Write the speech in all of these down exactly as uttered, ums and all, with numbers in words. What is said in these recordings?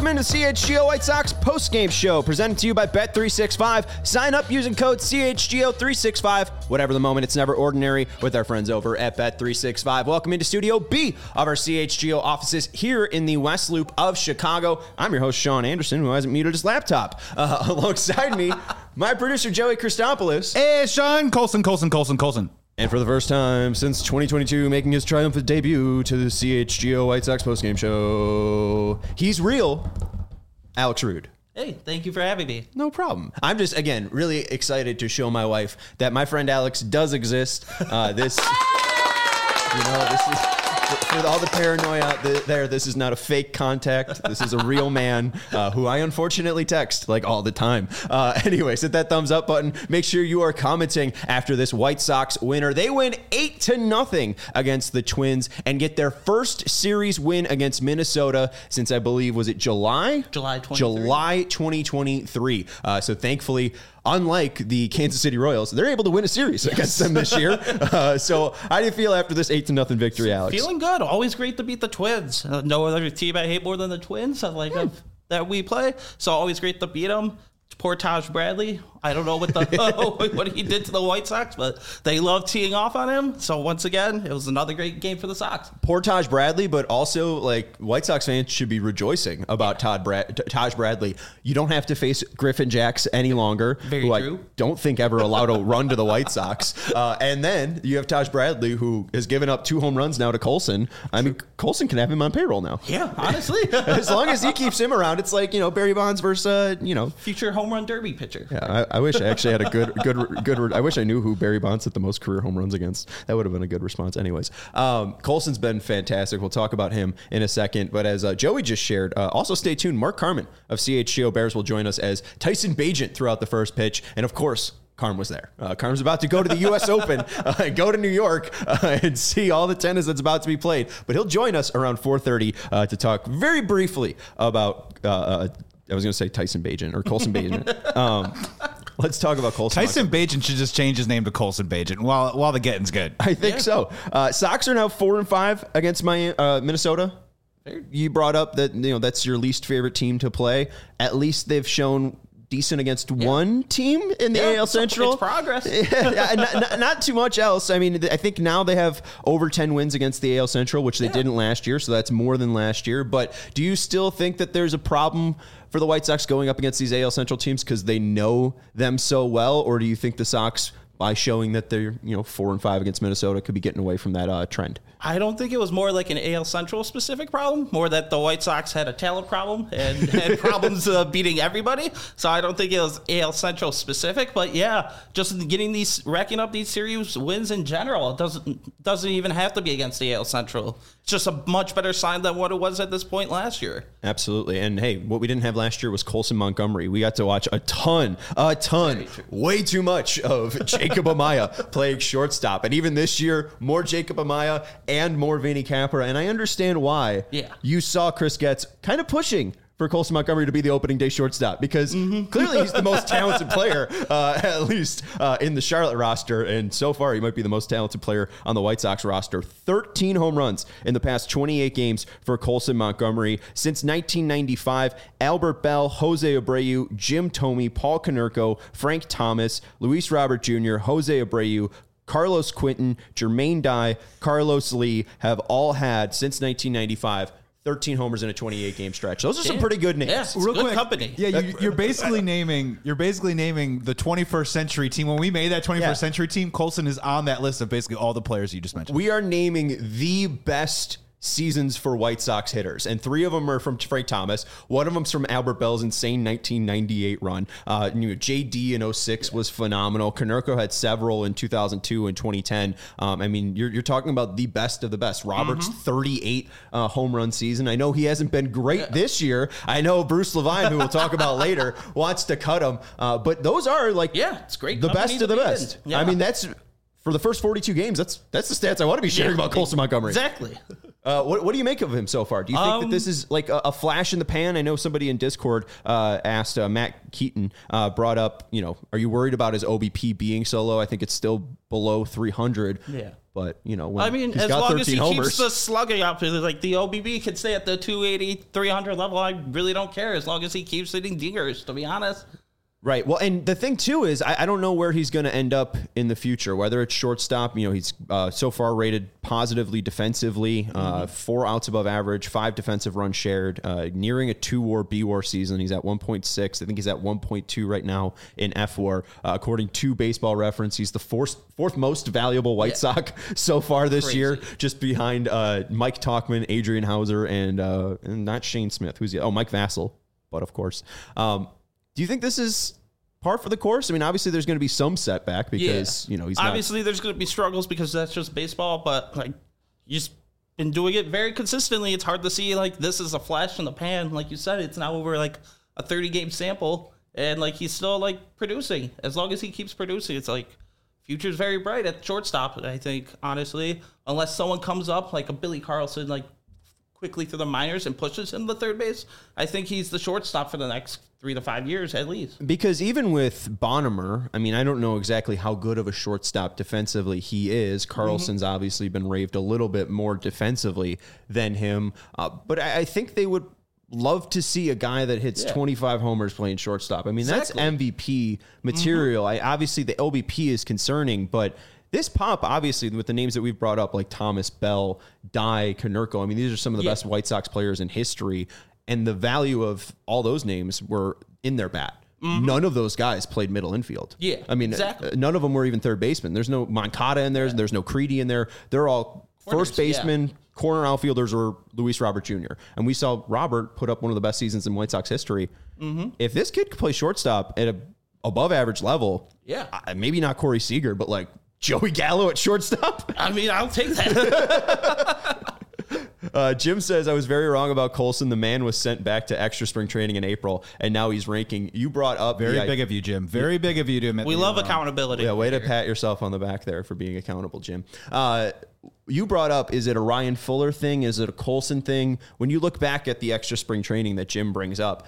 Welcome into C H G O White Sox post-game show, presented to you by Bet three sixty-five. Sign up using code C H G O three sixty-five. Whatever the moment, it's never ordinary with our friends over at Bet three sixty-five. Welcome into Studio B of our C H G O offices here in the West Loop of Chicago. I'm your host, Sean Anderson, who hasn't muted his laptop. Uh, alongside me, my producer, Joey Christopoulos. Hey, Sean. Colson, Colson, Colson, Colson. And for the first time since twenty twenty-two, making his triumphant debut to the C H G O White Sox postgame show, he's real, Alex Rude. Hey, thank you for having me. No problem. I'm just, again, really excited to show my wife that my friend Alex does exist. Uh, this, you know, this is... For all the paranoia out there, this is not a fake contact. This is a real man uh, who I unfortunately text like all the time. Uh, anyways, hit that thumbs up button. Make sure you are commenting after this White Sox winner. They win eight to nothing against the Twins and get their first series win against Minnesota since I believe, was it July? July twenty-third. July twenty twenty-three. Uh, so thankfully, unlike the Kansas City Royals, they're able to win a series yes. against them this year. Uh, so how do you feel after this eight to nothing victory, Alex? Feeling good. Always great to beat the Twins. Uh, no other team I hate more than the Twins. I like yeah. of, that we play. So always great to beat them. Poor Taj Bradley. I don't know what the what he did to the White Sox, but they love teeing off on him. So once again, it was another great game for the Sox. Poor Taj Bradley, but also like White Sox fans should be rejoicing about Todd Brad- Taj Bradley. You don't have to face Griffin Jacks any longer, Very who true. I don't think ever allowed a run to the White Sox. Uh, and then you have Taj Bradley, who has given up two home runs now to Colson. I mean, Colson can have him on payroll now. Yeah, honestly. As long as he keeps him around, it's like, you know, Barry Bonds versus, uh, you know. Future home run derby pitcher. Yeah, I, I wish I actually had a good, good, good. I wish I knew who Barry Bonds hit the most career home runs against. That would have been a good response. Anyways, um, Colson's been fantastic. We'll talk about him in a second. But as uh, Joey just shared, uh, also stay tuned. Mark Carman of C H G O Bears will join us as Tyson Bagent throughout the first pitch, and of course, Carm was there. Uh, Carm's about to go to the U S Open, uh, go to New York, uh, and see all the tennis that's about to be played. But he'll join us around four thirty uh, to talk very briefly about. Uh, uh, I was going to say Tyson Bagent or Colson Bagent. Um, let's talk about Colson. Tyson Bagent should just change his name to Colson Bagent while while the getting's good. I think yeah. so. Uh, Sox are now four and five against my uh, Minnesota. You brought up that you know that's your least favorite team to play. At least they've shown decent against yeah. one team in the yeah, A L Central. It's progress. yeah, not, not, not too much else. I mean, I think now they have over ten wins against the A L Central, which they yeah. didn't last year, so that's more than last year. But do you still think that there's a problem for the White Sox going up against these A L Central teams because they know them so well, or do you think the Sox, by showing that they're you know four and five against Minnesota, could be getting away from that uh, trend? I don't think it was more like an A L Central specific problem, more that the White Sox had a talent problem and had problems uh, beating everybody. So I don't think it was A L Central specific, but yeah, just getting these, racking up these series wins in general. It doesn't doesn't even have to be against the A L Central. It's just a much better sign than what it was at this point last year. Absolutely. And hey, what we didn't have last year was Colson Montgomery. We got to watch a ton, a ton, way too much of Jacob Amaya playing shortstop. And even this year, more Jacob Amaya and more Vinny Capra. And I understand why yeah. you saw Chris Getz kind of pushing for Colson Montgomery to be the opening day shortstop because mm-hmm. clearly he's the most talented player, uh, at least uh, in the Charlotte roster. And so far, he might be the most talented player on the White Sox roster. thirteen home runs in the past twenty-eight games for Colson Montgomery. Since nineteen ninety-five, Albert Bell, Jose Abreu, Jim Thome, Paul Konerko, Frank Thomas, Luis Robert Junior, Jose Abreu, Carlos Quinton, Jermaine Dye, Carlos Lee have all had, since nineteen ninety-five, thirteen homers in a twenty-eight game stretch. Those are some pretty good names. Yeah, it's Real good quick, company. Yeah, you, you're basically naming you're basically naming the twenty-first century team. When we made that twenty-first yeah. century team, Colson is on that list of basically all the players you just mentioned. We are naming the best seasons for White Sox hitters, and three of them are from Frank Thomas. One of them's from Albert Bell's insane nineteen ninety-eight run. Uh, you know, J D in oh six yeah. was phenomenal. Konerko had several in two thousand two and twenty ten. Um, I mean, you're, you're talking about the best of the best. Robert's mm-hmm. thirty-eight uh, home run season. I know he hasn't been great yeah. this year. I know Bruce Levine, who we'll talk about later, wants to cut him. Uh, but those are like yeah, it's great. The best of the best. Yeah. I mean, that's for the first forty-two games. That's that's the stats I want to be sharing yeah. about Colson Montgomery. Exactly. Uh, what, what do you make of him so far? Do you think Um, that this is like a, a flash in the pan? I know somebody in Discord uh, asked, uh, Matt Keaton uh, brought up, you know, are you worried about his O B P being so low? I think it's still below three hundred. Yeah. But, you know, when I mean, he's as got long as he homers, keeps the slugging up, like the O B B could stay at the two eighty, three hundred level. I really don't care as long as he keeps hitting dingers, to be honest. Right. Well, and the thing, too, is I, I don't know where he's going to end up in the future, whether it's shortstop. You know, he's uh, so far rated positively defensively, uh, mm-hmm. four outs above average, five defensive runs shared, uh, nearing a two war B war season. He's at one point six. I think he's at one point two right now in F war. Uh, according to Baseball Reference, he's the fourth, fourth most valuable White yeah. Sox so far this Crazy. year, just behind uh, Mike Tauchman, Adrian Hauser, and, uh, and not Shane Smith. Who's the, oh, Mike Vassell, but of course. Um, Do you think this is par for the course? I mean, obviously there's going to be some setback because, yeah. you know, he's obviously not... there's going to be struggles because that's just baseball, but like you've been doing it very consistently. It's hard to see like this is a flash in the pan. Like you said, it's now over like a thirty game sample and like he's still like producing. As long as he keeps producing, it's like future's very bright at shortstop, I think, honestly, unless someone comes up like a Billy Carlson, like quickly through the minors and pushes him to third base. I think he's the shortstop for the next three to five years at least. Because even with Bonnemer, I mean, I don't know exactly how good of a shortstop defensively he is. Carlson's mm-hmm. obviously been raved a little bit more defensively than him. Uh, but I, I think they would love to see a guy that hits yeah. twenty-five homers playing shortstop. I mean, exactly. that's M V P material. Mm-hmm. I obviously the O B P is concerning, but this pop, obviously, with the names that we've brought up, like Thomas, Bell, Dye, Konerko, I mean, these are some of the yeah. best White Sox players in history, and the value of all those names were in their bat. Mm-hmm. None of those guys played middle infield. Yeah, I mean, exactly. none of them were even third baseman. There's no Moncada in there. Yeah. There's no Creedy in there. They're all Corners, first baseman, yeah. corner outfielders, or Luis Robert Junior And we saw Robert put up one of the best seasons in White Sox history. Mm-hmm. If this kid could play shortstop at a above average level, yeah, maybe not Corey Seager, but like Joey Gallo at shortstop? I mean, I'll take that. uh, Jim says, I was very wrong about Colson. The man was sent back to extra spring training in April, and now he's ranking. You brought up... Very the, big of you, Jim. Very big of you to admit We love accountability. Yeah, way to pat yourself on the back there for being accountable, Jim. Uh, you brought up, is it a Ryan Fuller thing? Is it a Colson thing? When you look back at the extra spring training that Jim brings up,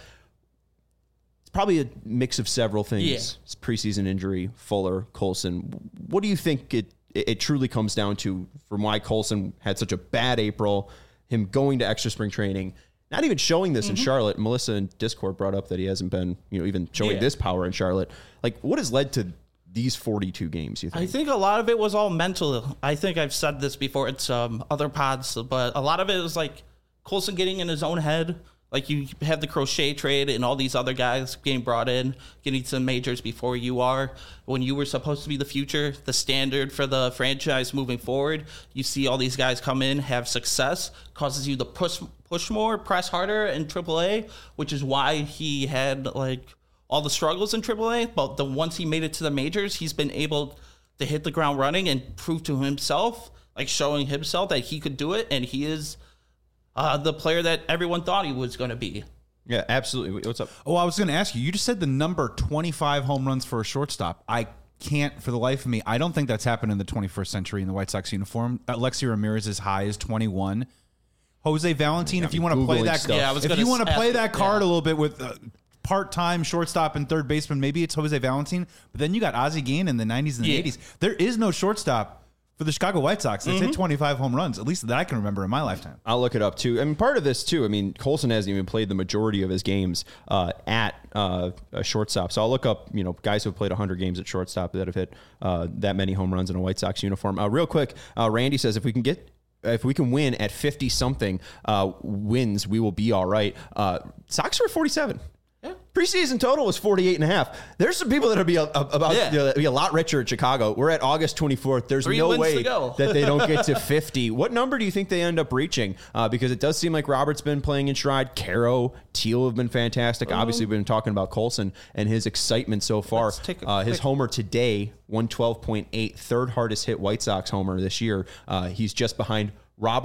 probably a mix of several things. Yeah. Preseason injury, Fuller, Colson. What do you think it, it it truly comes down to from why Colson had such a bad April, him going to extra spring training, not even showing this mm-hmm. in Charlotte? Melissa in Discord brought up that he hasn't been, you know, even showing yeah. this power in Charlotte. Like, what has led to these forty-two games, you think? I think a lot of it was all mental. I think I've said this before in some other pods, but a lot of it was like Colson getting in his own head. Like you have the Crochet trade and all these other guys getting brought in, getting to majors before you are. When you were supposed to be the future, the standard for the franchise moving forward, you see all these guys come in, have success, causes you to push push more, press harder in triple A, which is why he had like all the struggles in triple A. But the once he made it to the majors, he's been able to hit the ground running and prove to himself, like showing himself that he could do it, and he is Uh, the player that everyone thought he was going to be. Yeah, absolutely. What's up? Oh, I was going to ask you. You just said the number twenty-five home runs for a shortstop. I can't, for the life of me, I don't think that's happened in the twenty-first century in the White Sox uniform. Alexi Ramirez is high as twenty-one. Jose Valentin, if you want to play that, yeah, I was if you want to play ask, that card yeah. a little bit with uh, part-time shortstop and third baseman, maybe it's Jose Valentin. But then you got Ozzie Guillen in the nineties and the yeah. eighties. There is no shortstop for the Chicago White Sox that's mm-hmm. hit twenty-five home runs, at least that I can remember in my lifetime. I'll look it up, too. I mean, part of this, too, I mean, Colson hasn't even played the majority of his games uh, at uh, a shortstop. So I'll look up, you know, guys who have played one hundred games at shortstop that have hit uh, that many home runs in a White Sox uniform. Uh, real quick, uh, Randy says if we can get if we can win at fifty-something uh, wins, we will be all right. Uh, Sox are at forty-seven. Yeah. Preseason total was forty-eight and a half. There's some people that'll be a, a, about yeah. you know, be a lot richer at Chicago. We're at August twenty-fourth. There's Three no way that they don't get to fifty. What number do you think they end up reaching? Uh, because it does seem like Robert's been playing in stride. Caro, Teal have been fantastic. Um, Obviously, we've been talking about Colson and his excitement so far. Uh, his homer today, one twelve point eight, third hardest hit White Sox homer this year. Uh, he's just behind Robert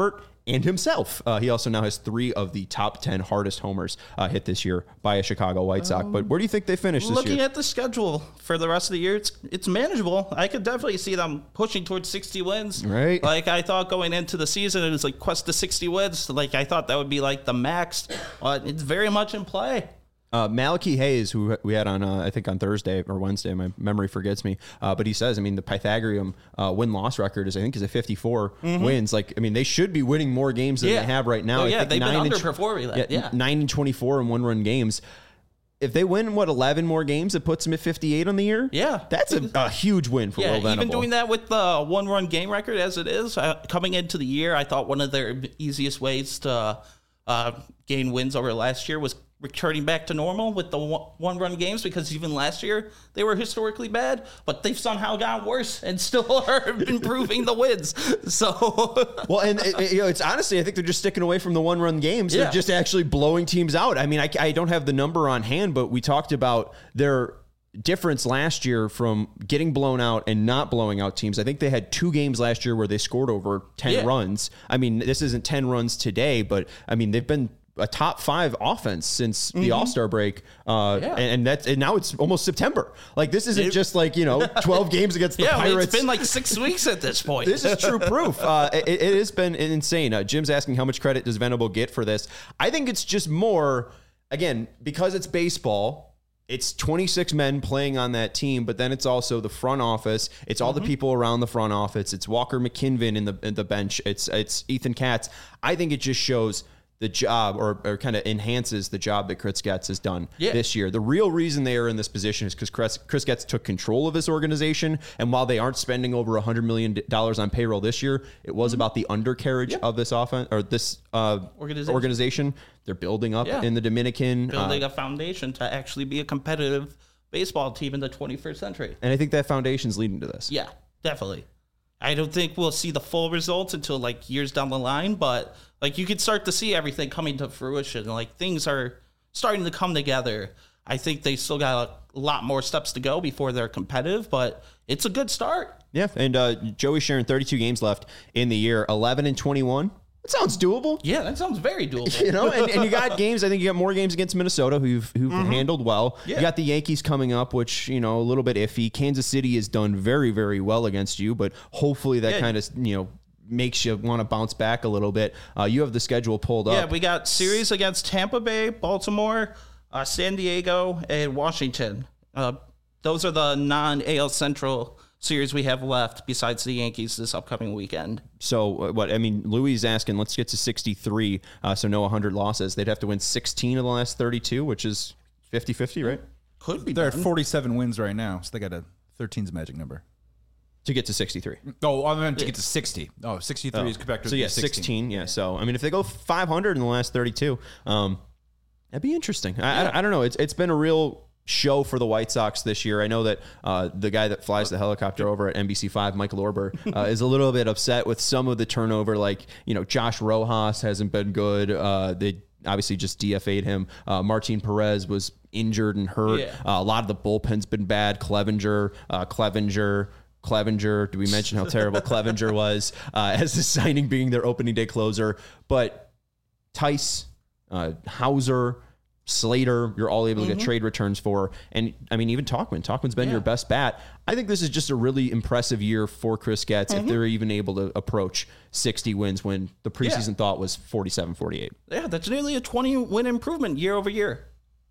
and himself. Uh, he also now has three of the top ten hardest homers uh, hit this year by a Chicago White Sox. Um, but where do you think they finish this looking year? Looking at the schedule for the rest of the year, it's it's manageable. I could definitely see them pushing towards sixty wins. Right. Like I thought going into the season, it was like quest to sixty wins. Like I thought that would be like the max. But it's very much in play. Uh, Malachi Hayes, who we had on, uh, I think on Thursday or Wednesday, my memory forgets me. Uh, but he says, I mean, the Pythagorean uh, win-loss record is, I think, is a fifty-four mm-hmm. wins. Like, I mean, they should be winning more games than yeah. they have right now. Oh, I yeah, think they've been nine underperforming that. Yeah, Yeah, nine and twenty-four in one-run games. If they win, what, eleven more games, it puts them at fifty-eight on the year? Yeah. That's a, a huge win for yeah, Will Venable. Even doing that with the one-run game record as it is, uh, coming into the year, I thought one of their easiest ways to uh, gain wins over last year was returning back to normal with the one-run games, because even last year they were historically bad, but they've somehow gotten worse and still are improving the wins. So, well, and it, you know, it's honestly, I think they're just sticking away from the one-run games. Yeah. They're just actually blowing teams out. I mean, I, I don't have the number on hand, but we talked about their difference last year from getting blown out and not blowing out teams. I think they had two games last year where they scored over ten yeah. runs. I mean, this isn't ten runs today, but I mean, they've been a top five offense since the mm-hmm. All-Star break. Uh, yeah. and, and that's, and now it's almost September. Like, this isn't it, just like, you know, twelve games against the yeah, Pirates. It's been like six weeks at this point. This is true proof. Uh, it, it has been insane. Uh, Jim's asking how much credit does Venable get for this? I think it's just more, again, because it's baseball, it's twenty-six men playing on that team, but then it's also the front office. It's all mm-hmm. the people around the front office. It's Walker McKinven in the in the bench. It's it's Ethan Katz. I think it just shows the job, or, or kind of enhances the job that Chris Getz has done yeah. this year. The real reason they are in this position is because Chris, Chris Getz took control of this organization. And while they aren't spending over one hundred million dollars on payroll this year, it was mm-hmm. about the undercarriage yeah. of this offense, or this uh, organization. organization. They're building up yeah. in the Dominican. Building uh, a foundation to actually be a competitive baseball team in the twenty-first century. And I think that foundation's leading to this. Yeah, definitely. I don't think we'll see the full results until like years down the line, but like you could start to see everything coming to fruition. Like things are starting to come together. I think they still got a lot more steps to go before they're competitive, but it's a good start. Yeah, and uh, Joey sharing thirty-two games left in the year, eleven and twenty-one. That sounds doable. Yeah, that sounds very doable. You know, and, and you got games. I think you got more games against Minnesota, who've who've mm-hmm. handled well. Yeah. You got the Yankees coming up, which, you know, a little bit iffy. Kansas City has done very, very well against you, but hopefully that yeah. kind of, you know, makes you want to bounce back a little bit. Uh, you have the schedule pulled yeah, up. Yeah, we got series against Tampa Bay, Baltimore, uh, San Diego, and Washington. Uh, those are the non-A L Central series we have left besides the Yankees this upcoming weekend. So uh, what, I mean, Louis is asking, let's get to sixty-three. Uh, so no one hundred losses. They'd have to win sixteen of the last thirty-two, which is fifty-fifty, right? Could be. They're done. at forty-seven wins right now. So they got a thirteen's magic number. To get to sixty-three. Oh, I meant to get to sixty. Oh, sixty-three oh. is back to So yeah, sixteen. sixteen. Yeah. So, I mean, if they go five hundred in the last thirty-two, um, that'd be interesting. I, yeah. I, I don't know. It's It's been a real show for the White Sox this year. I know that uh, the guy that flies the helicopter over at N B C five, Michael Orber, uh, is a little bit upset with some of the turnover. Like, you know, Josh Rojas hasn't been good. Uh, they obviously just D F A'd him. Uh, Martin Perez was injured and hurt. Yeah. Uh, a lot of the bullpen's been bad. Clevenger, uh, Clevenger, Clevenger. Do we mention how terrible Clevenger was uh, as the signing being their opening day closer? But Tice, uh, Hauser, Slater, you're all able to mm-hmm. get trade returns for. And I mean, even Tauchman. Tauchman's been yeah. your best bat. I think this is just a really impressive year for Chris Getz mm-hmm. if they're even able to approach sixty wins when the preseason yeah. thought was forty-seven, forty-eight. Yeah, that's nearly a twenty win improvement year over year.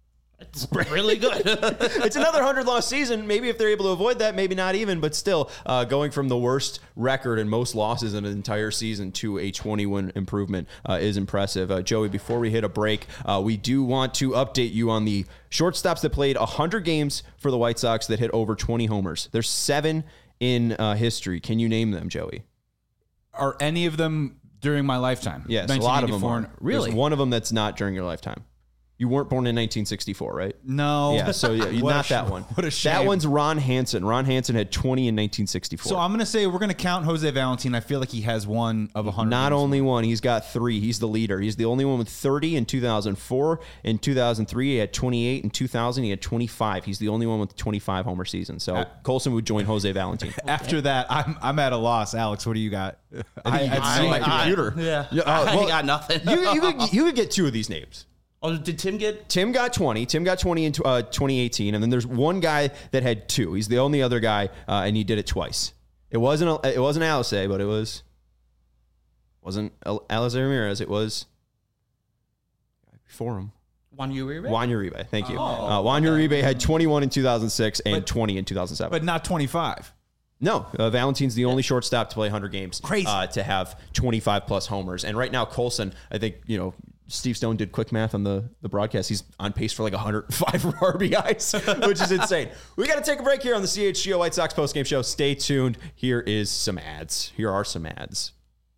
It's really good. It's another one hundred loss season. Maybe if they're able to avoid that, maybe not even, but still uh, going from the worst record and most losses in an entire season to a twenty win improvement uh, is impressive. Uh, Joey, before we hit a break, uh, we do want to update you on the shortstops that played one hundred games for the White Sox that hit over twenty homers. There's seven in uh, history. Can you name them, Joey? Are any of them during my lifetime? Yes, a lot of them are. Really? There's one of them that's not during your lifetime. You weren't born in nineteen sixty-four, right? No. Yeah, so yeah, What not a sh- that one. what a shame. That one's Ron Hansen. Ron Hansen had twenty in nineteen sixty-four. So I'm going to say we're going to count Jose Valentin. I feel like he has one of one hundred. Not only one, he's got three. He's the leader. He's the only one with thirty in two thousand four. In two thousand three, he had twenty-eight. In two thousand, he had twenty-five. He's the only one with twenty-five homer seasons. So Colson would join Jose Valentin. After that, I'm I'm at a loss. Alex, what do you got? I think you can see my computer. I, yeah, Yeah, uh, I well, got nothing. you, you, could, you could get two of these names. Oh, did Tim get? Tim got twenty. Tim got twenty in uh, twenty eighteen, and then there's one guy that had two. He's the only other guy, uh, and he did it twice. It wasn't a, it wasn't Alice, but it was wasn't Alice Ramirez. It was before him. Juan Uribe? Juan Uribe. Thank you. Oh, uh, Juan okay. Uribe had twenty-one in two thousand six and But- twenty in two thousand seven. But not twenty-five. No, uh, Valentin's the only shortstop to play one hundred games. Crazy. Uh, to have twenty-five plus homers. And right now, Colson, I think, you know, Steve Stone did quick math on the, the broadcast. He's on pace for like one hundred five R B Is, which is insane. We got to take a break here on the C H G O White Sox postgame show. Stay tuned. Here is some ads. Here are some ads.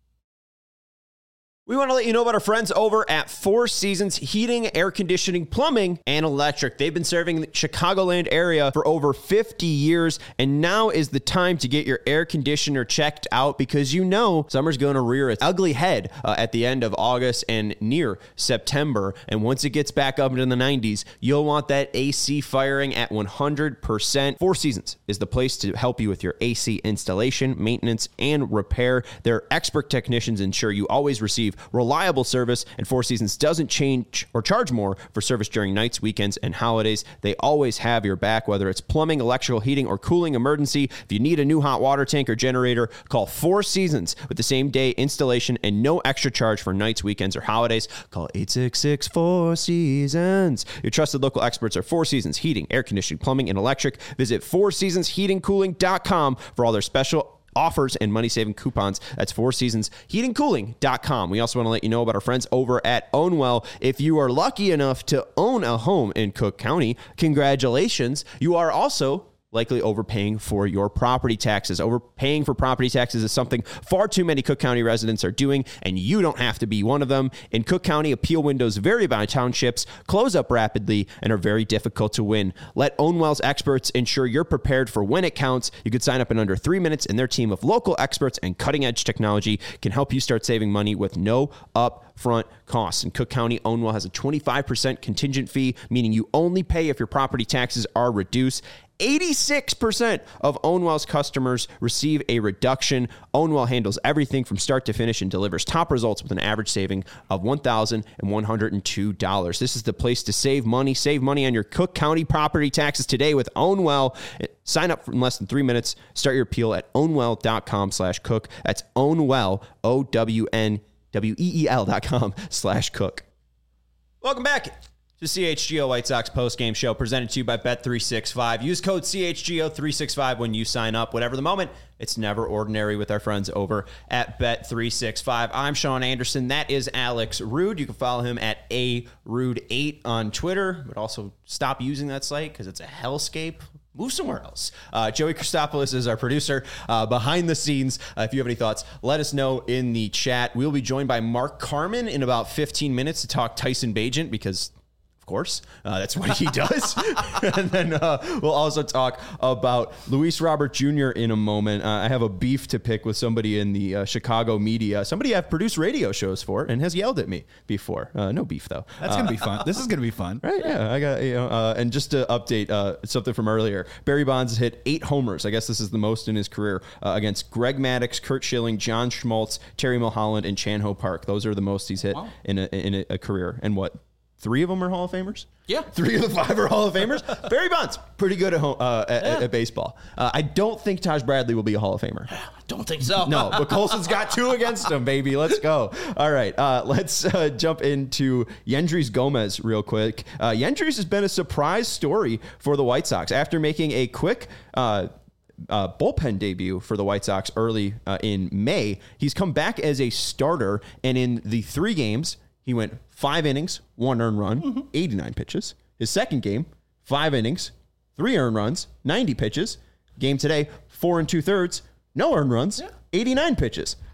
We want to let you know about our friends over at Four Seasons Heating, Air Conditioning, Plumbing, and Electric. They've been serving the Chicagoland area for over fifty years, and now is the time to get your air conditioner checked out because you know summer's going to rear its ugly head uh, at the end of August and near September. And once it gets back up into the nineties, you'll want that A C firing at one hundred percent. Four Seasons is the place to help you with your A C installation, maintenance, and repair. Their expert technicians ensure you always receive reliable service, and Four Seasons doesn't change or charge more for service during nights, weekends, and holidays. They always have your back, whether it's plumbing, electrical, heating, or cooling emergency. If you need a new hot water tank or generator, call Four Seasons with the same day installation and no extra charge for nights, weekends, or holidays. Call eight six six, four seasons. Your trusted local experts are Four Seasons Heating, Air Conditioning, Plumbing, and Electric. Visit four seasons heating cooling dot com for all their special offers and money-saving coupons. That's four seasons heating cooling dot com. We also want to let you know about our friends over at Ownwell. If you are lucky enough to own a home in Cook County, congratulations. You are also likely overpaying for your property taxes. Overpaying for property taxes is something far too many Cook County residents are doing, and you don't have to be one of them. In Cook County, appeal windows vary by townships, close up rapidly, and are very difficult to win. Let Ownwell's experts ensure you're prepared for when it counts. You could sign up in under three minutes, and their team of local experts and cutting-edge technology can help you start saving money with no upfront costs. In Cook County, Ownwell has a twenty-five percent contingent fee, meaning you only pay if your property taxes are reduced. eighty-six percent of Ownwell's customers receive a reduction. Ownwell handles everything from start to finish and delivers top results with an average saving of one thousand one hundred two dollars. This is the place to save money. Save money on your Cook County property taxes today with Ownwell. Sign up in less than three minutes. Start your appeal at ownwell dot com slash cook. That's Ownwell, O W N W E E L dot com slash cook. Welcome back to C H G O White Sox postgame show presented to you by Bet three sixty-five. Use code C H G O three sixty-five when you sign up. Whatever the moment, it's never ordinary with our friends over at Bet three sixty-five. I'm Sean Anderson. That is Alex Rude. You can follow him at A Rude eight on Twitter, but also stop using that site because it's a hellscape. Move somewhere else. Uh, Joey Christopoulos is our producer uh, behind the scenes. Uh, if you have any thoughts, let us know in the chat. We'll be joined by Mark Carman in about fifteen minutes to talk Tyson Bagent because course. Uh, that's what he does. And then uh, we'll also talk about Luis Robert Junior in a moment. Uh, I have a beef to pick with somebody in the uh, Chicago media. Somebody I've produced radio shows for and has yelled at me before. Uh, no beef, though. That's going to be fun. This is going to be fun. Right, yeah. I got, you know, uh, and just to update uh, something from earlier, Barry Bonds hit eight homers. I guess this is the most in his career uh, against Greg Maddux, Kurt Schilling, John Schmaltz, Terry Mulholland, and Chan Ho Park. Those are the most he's hit wow. in a, in a, a career. And what? Three of them are Hall of Famers? Yeah. Three of the five are Hall of Famers? Barry Bonds, pretty good at, home, uh, at, yeah. at baseball. Uh, I don't think Taj Bradley will be a Hall of Famer. Don't think so. No, but Colson's got two against him, baby. Let's go. All right, uh, let's uh, jump into Yendrys Gomez real quick. Uh, Yendrys has been a surprise story for the White Sox. After making a quick uh, uh, bullpen debut for the White Sox early uh, in May, he's come back as a starter, and in the three games, he went five innings, one earned run, mm-hmm. eighty-nine pitches. His second game, five innings, three earned runs, ninety pitches. Game today, four and two thirds, no earned runs, yeah. eighty-nine pitches.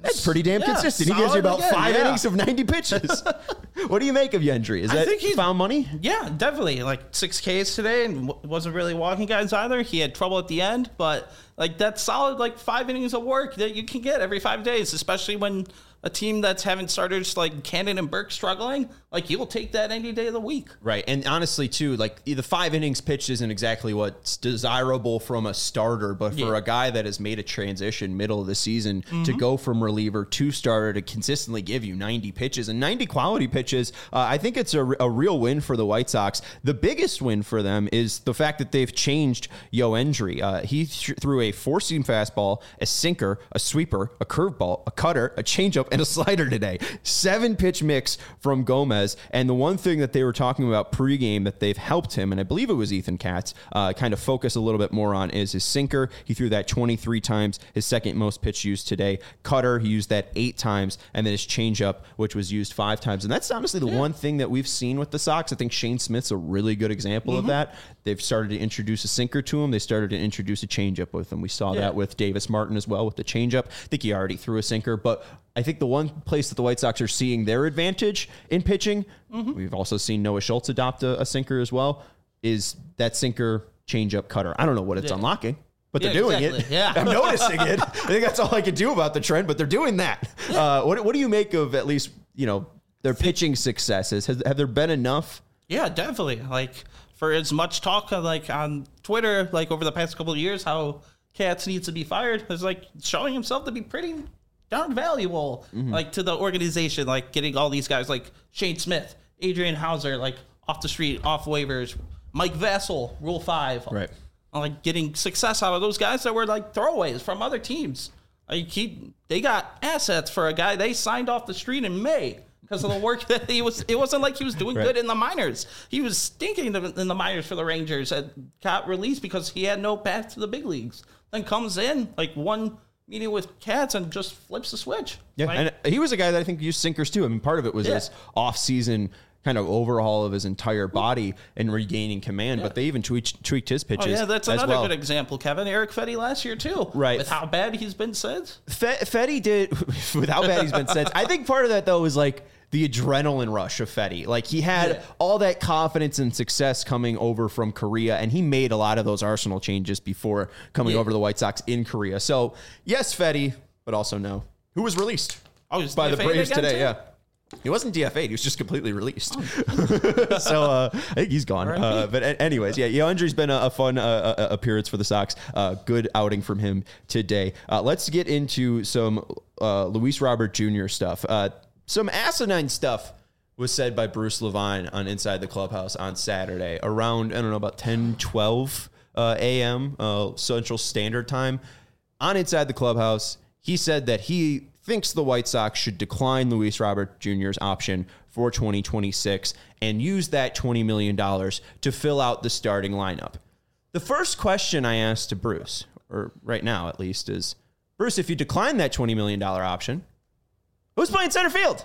That's pretty damn Yeah, consistent. He gives you about solid again, five yeah. innings of ninety pitches. What do you make of Yendry? Is I that think he's- found money? Yeah, definitely. Like six Ks today, and w- wasn't really walking guys either. He had trouble at the end, but like that's solid. Like five innings of work that you can get every five days, especially when a team that's having starters like Cannon and Burke struggling. Like you'll take that any day of the week. Right. And honestly, too, like the five innings pitched isn't exactly what's desirable from a starter, but for Yeah. a guy that has made a transition middle of the season to go from reliever to starter to consistently give you ninety pitches and ninety quality pitches, uh, I think it's a, a real win for the White Sox. The biggest win for them is the fact that they've changed Yendry. Uh, he th- threw a four-seam fastball, a sinker, a sweeper, a curveball, a cutter, a changeup, and a slider today. Seven pitch mix from Gomez. And the one thing that they were talking about pregame that they've helped him, and I believe it was Ethan Katz, uh, kind of focus a little bit more on is his sinker. He threw that twenty-three times, his second most pitch used today. Cutter, he used that eight times, and then his changeup, which was used five times. And that's honestly the yeah. one thing that we've seen with the Sox. I think Shane Smith's a really good example mm-hmm. of that. They've started to introduce a sinker to him. They started to introduce a changeup with him. We saw yeah. that with Davis Martin as well with the changeup. I think he already threw a sinker, but I think the one place that the White Sox are seeing their advantage in pitching, mm-hmm. we've also seen Noah Schultz adopt a, a sinker as well, is that sinker, changeup, cutter. I don't know what it's yeah. unlocking, but yeah, they're doing exactly. it. Yeah. I'm noticing it. I think that's all I can do about the trend, but they're doing that. Yeah. Uh, what, what do you make of at least, you know, their pitching successes? Has, have there been enough? Yeah, definitely. Like for as much talk of, like on Twitter, like over the past couple of years, how Katz needs to be fired, is like showing himself to be pretty darn valuable, mm-hmm. like to the organization, like getting all these guys like Shane Smith, Adrian Hauser, like off the street, off waivers, Mike Vassell, Rule Five, right? Like getting success out of those guys that were like throwaways from other teams. Like he, they got assets for a guy they signed off the street in May because of the work that he was. It wasn't like he was doing right. good in the minors. He was stinking in the minors for the Rangers and got released because he had no path to the big leagues. Then comes in like one meeting with Katz and just flips the switch. Yeah, like, and he was a guy that I think used sinkers too. I mean, part of it was yeah. this off-season kind of overhaul of his entire body and regaining command, yeah. but they even tweaked, tweaked his pitches. Oh, yeah, that's as another well. good example, Kevin. Eric Fetty last year too, right? With how bad he's been since. Fe- Fetty did with how bad he's been since. I think part of that though is like the adrenaline rush of Fetty. Like he had yeah. all that confidence and success coming over from Korea, and he made a lot of those Arsenal changes before coming yeah. over to the White Sox in Korea. So yes, Fetty, but also no. Who was released oh, by D F A'd the Braves today? Too? Yeah. He wasn't D F A'd. He was just completely released. Oh. so uh, I think he's gone. Uh, but anyways, yeah, Yendry's been a, a fun uh, uh, appearance for the Sox. Uh, good outing from him today. Uh, let's get into some uh, Luis Robert Junior stuff. Uh, some asinine stuff was said by Bruce Levine on Inside the Clubhouse on Saturday around, I don't know, about ten, twelve uh, a.m. Uh, Central Standard Time. On Inside the Clubhouse, he said that he thinks the White Sox should decline Luis Robert Junior's option for twenty twenty-six and use that twenty million dollars to fill out the starting lineup. The first question I asked to Bruce, or right now at least, is, Bruce, if you decline that twenty million dollars option, who's playing center field?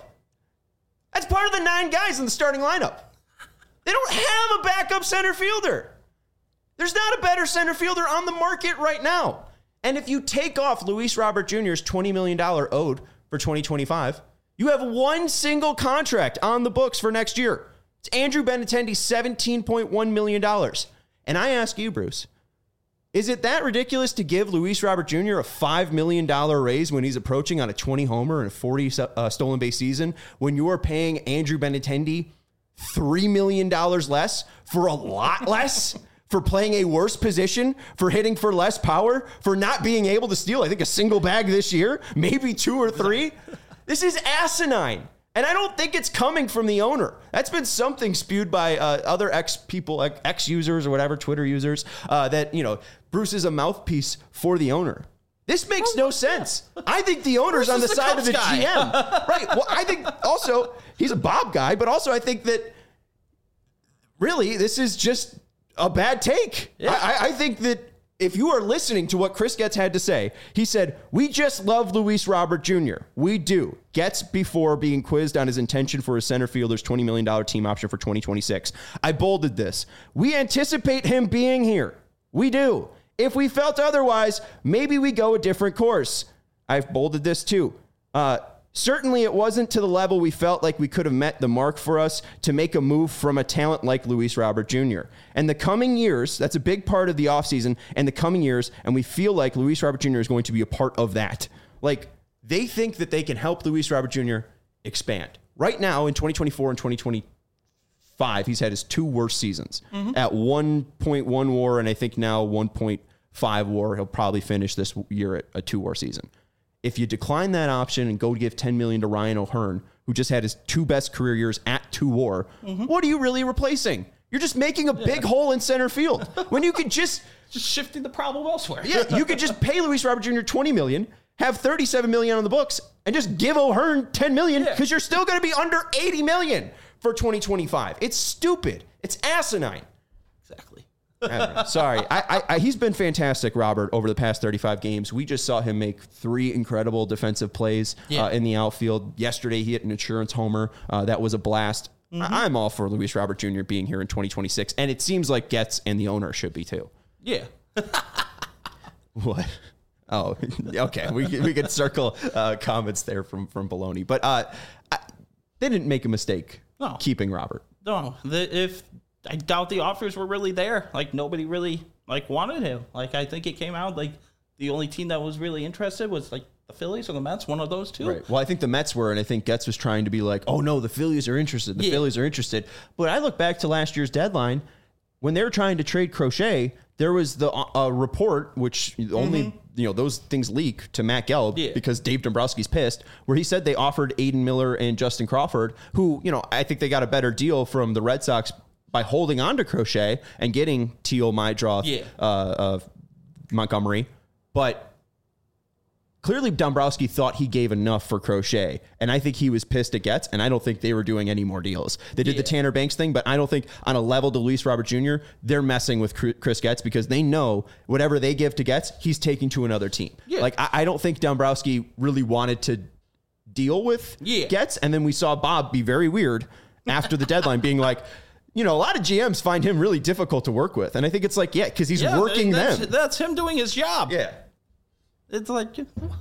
That's part of the nine guys in the starting lineup. They don't have a backup center fielder. There's not a better center fielder on the market right now. And if you take off Luis Robert Junior's twenty million dollars owed for twenty twenty-five, you have one single contract on the books for next year. It's Andrew Benintendi's seventeen point one million dollars. And I ask you, Bruce, is it that ridiculous to give Luis Robert Junior a five million dollars raise when he's approaching on a twenty homer and a forty uh, stolen base season when you are paying Andrew Benintendi three million dollars less for a lot less? For playing a worse position, for hitting for less power, for not being able to steal, I think, a single bag this year, maybe two or three. This is asinine. And I don't think it's coming from the owner. That's been something spewed by uh, other ex people, ex-users or whatever, Twitter users, uh, that, you know, Bruce is a mouthpiece for the owner. This makes no sense. I think the owner's on the, the side of the guy. G M. Right. Well, I think also he's a Bob guy, but also I think that really this is just a bad take. Yeah. I, I think that if you are listening to what Chris Getz had to say, he said, we just love Luis Robert Junior We do. Getz, before being quizzed on his intention for his center fielder's twenty million dollars team option for twenty twenty-six. I bolded this. We anticipate him being here. We do. If we felt otherwise, maybe we go a different course. I've bolded this too. Uh, certainly it wasn't to the level we felt like we could have met the mark for us to make a move from a talent like Luis Robert Junior And the coming years, that's a big part of the offseason and the coming years, and we feel like Luis Robert Junior is going to be a part of that. Like, they think that they can help Luis Robert Junior expand. Right now, in twenty twenty-four and twenty twenty-five, he's had his two worst seasons. Mm-hmm. At one point one WAR, and I think now one point five WAR. He'll probably finish this year at a two WAR season. If you decline that option and go give ten million dollars to Ryan O'Hearn, who just had his two best career years at two WAR, mm-hmm. what are you really replacing? You're just making a yeah. big hole in center field when you could just just shifting the problem elsewhere. Yeah, you could just pay Luis Robert Junior twenty million dollars, have thirty-seven million dollars on the books, and just give O'Hearn ten million dollars because yeah. you're still going to be under eighty million dollars for twenty twenty-five. It's stupid. It's asinine. Exactly. I Sorry. I, I, I, he's been fantastic, Robert, over the past thirty-five games. We just saw him make three incredible defensive plays yeah. uh, in the outfield. Yesterday, he hit an insurance homer. Uh, that was a blast. Mm-hmm. I, I'm all for Luis Robert Junior being here in twenty twenty-six, and it seems like Getz and the owner should be too. Yeah. What? Oh, okay. We we could circle uh, comments there from from Baloney, but uh, I, they didn't make a mistake no. keeping Robert. No, the, if I doubt the offers were really there. Like nobody really like wanted him. Like I think it came out like the only team that was really interested was like the Phillies or the Mets, one of those two. Right. Well, I think the Mets were, and I think Getz was trying to be like, oh no, the Phillies are interested. The yeah. Phillies are interested. But I look back to last year's deadline when they were trying to trade Crochet. There was the uh, report, which only mm-hmm. you know those things leak to Matt Gelb yeah. because Dave Dombrowski's pissed, where he said they offered Aiden Miller and Justin Crawford, who you know I think they got a better deal from the Red Sox by holding on to Crochet and getting Teal, Mydroth, yeah. uh, uh, Montgomery, but clearly Dombrowski thought he gave enough for Crochet, and I think he was pissed at Getz, and I don't think they were doing any more deals. They did yeah. the Tanner Banks thing, but I don't think on a level to Luis Robert Junior, they're messing with Chris Getz because they know whatever they give to Getz, he's taking to another team. Yeah. Like, I, I don't think Dombrowski really wanted to deal with yeah. Getz, and then we saw Bob be very weird after the deadline being like, you know, a lot of G Ms find him really difficult to work with, and I think it's like, yeah, because he's yeah, working that's, them. That's him doing his job. Yeah. It's like,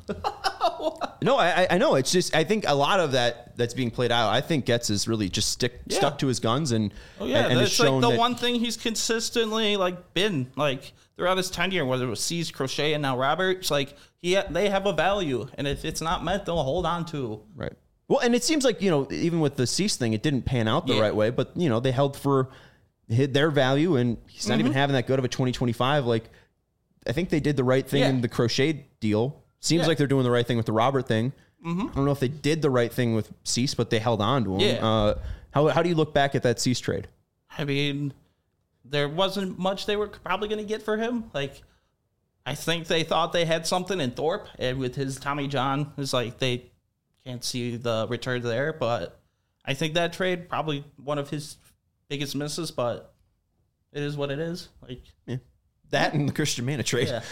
no, I, I know. It's just, I think a lot of that that's being played out, I think Getz is really just stick yeah. stuck to his guns and, oh, yeah, and, and that's like the that, one thing he's consistently like been like throughout his tenure, whether it was C's, Crochet, and now Robert. It's like he they have a value, and if it's not met, they'll hold on to. Right. Well, and it seems like, you know, even with the Cease thing, it didn't pan out the yeah. right way, but you know, they held for hid their value, and he's not mm-hmm. even having that good of a twenty twenty-five. Like, I think they did the right thing yeah. in the Crochet deal. Seems yeah. like they're doing the right thing with the Robert thing. Mm-hmm. I don't know if they did the right thing with Cease, but they held on to him. Yeah. Uh, how how do you look back at that Cease trade? I mean, there wasn't much they were probably going to get for him. Like, I think they thought they had something in Thorpe, and with his Tommy John, it's like they can't see the return there. But I think that trade probably one of his biggest misses, but it is what it is. Like, yeah. That and the Christian Mana trade. Yeah.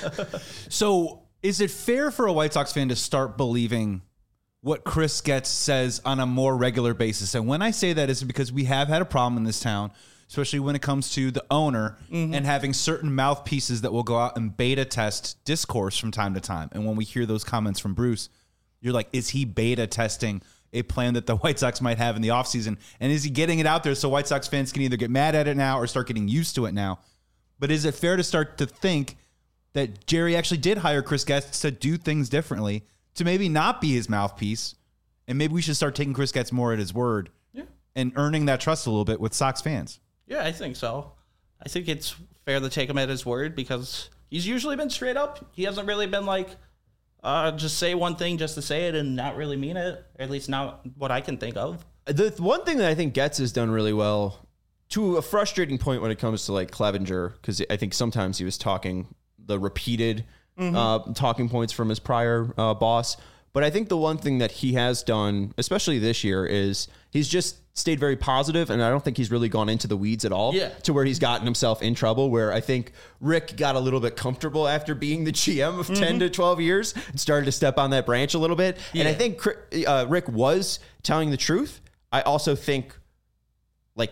So, is it fair for a White Sox fan to start believing what Chris Getz says on a more regular basis? And when I say that, is because we have had a problem in this town, especially when it comes to the owner mm-hmm. and having certain mouthpieces that will go out and beta test discourse from time to time. And when we hear those comments from Bruce, you're like, is he beta testing a plan that the White Sox might have in the offseason? And is he getting it out there so White Sox fans can either get mad at it now or start getting used to it now? But is it fair to start to think that Jerry actually did hire Chris Getz to do things differently, to maybe not be his mouthpiece, and maybe we should start taking Chris Getz more at his word yeah. and earning that trust a little bit with Sox fans? Yeah, I think so. I think it's fair to take him at his word because he's usually been straight up. He hasn't really been like, uh, just say one thing just to say it and not really mean it, or at least not what I can think of. The one thing that I think Getz has done really well, to a frustrating point when it comes to like Clevenger, because I think sometimes he was talking the repeated mm-hmm. uh, talking points from his prior uh, boss. But I think the one thing that he has done, especially this year, is he's just stayed very positive, and I don't think he's really gone into the weeds at all yeah. to where he's gotten himself in trouble, where I think Rick got a little bit comfortable after being the G M of mm-hmm. ten to twelve years and started to step on that branch a little bit. Yeah. And I think uh, Rick was telling the truth. I also think like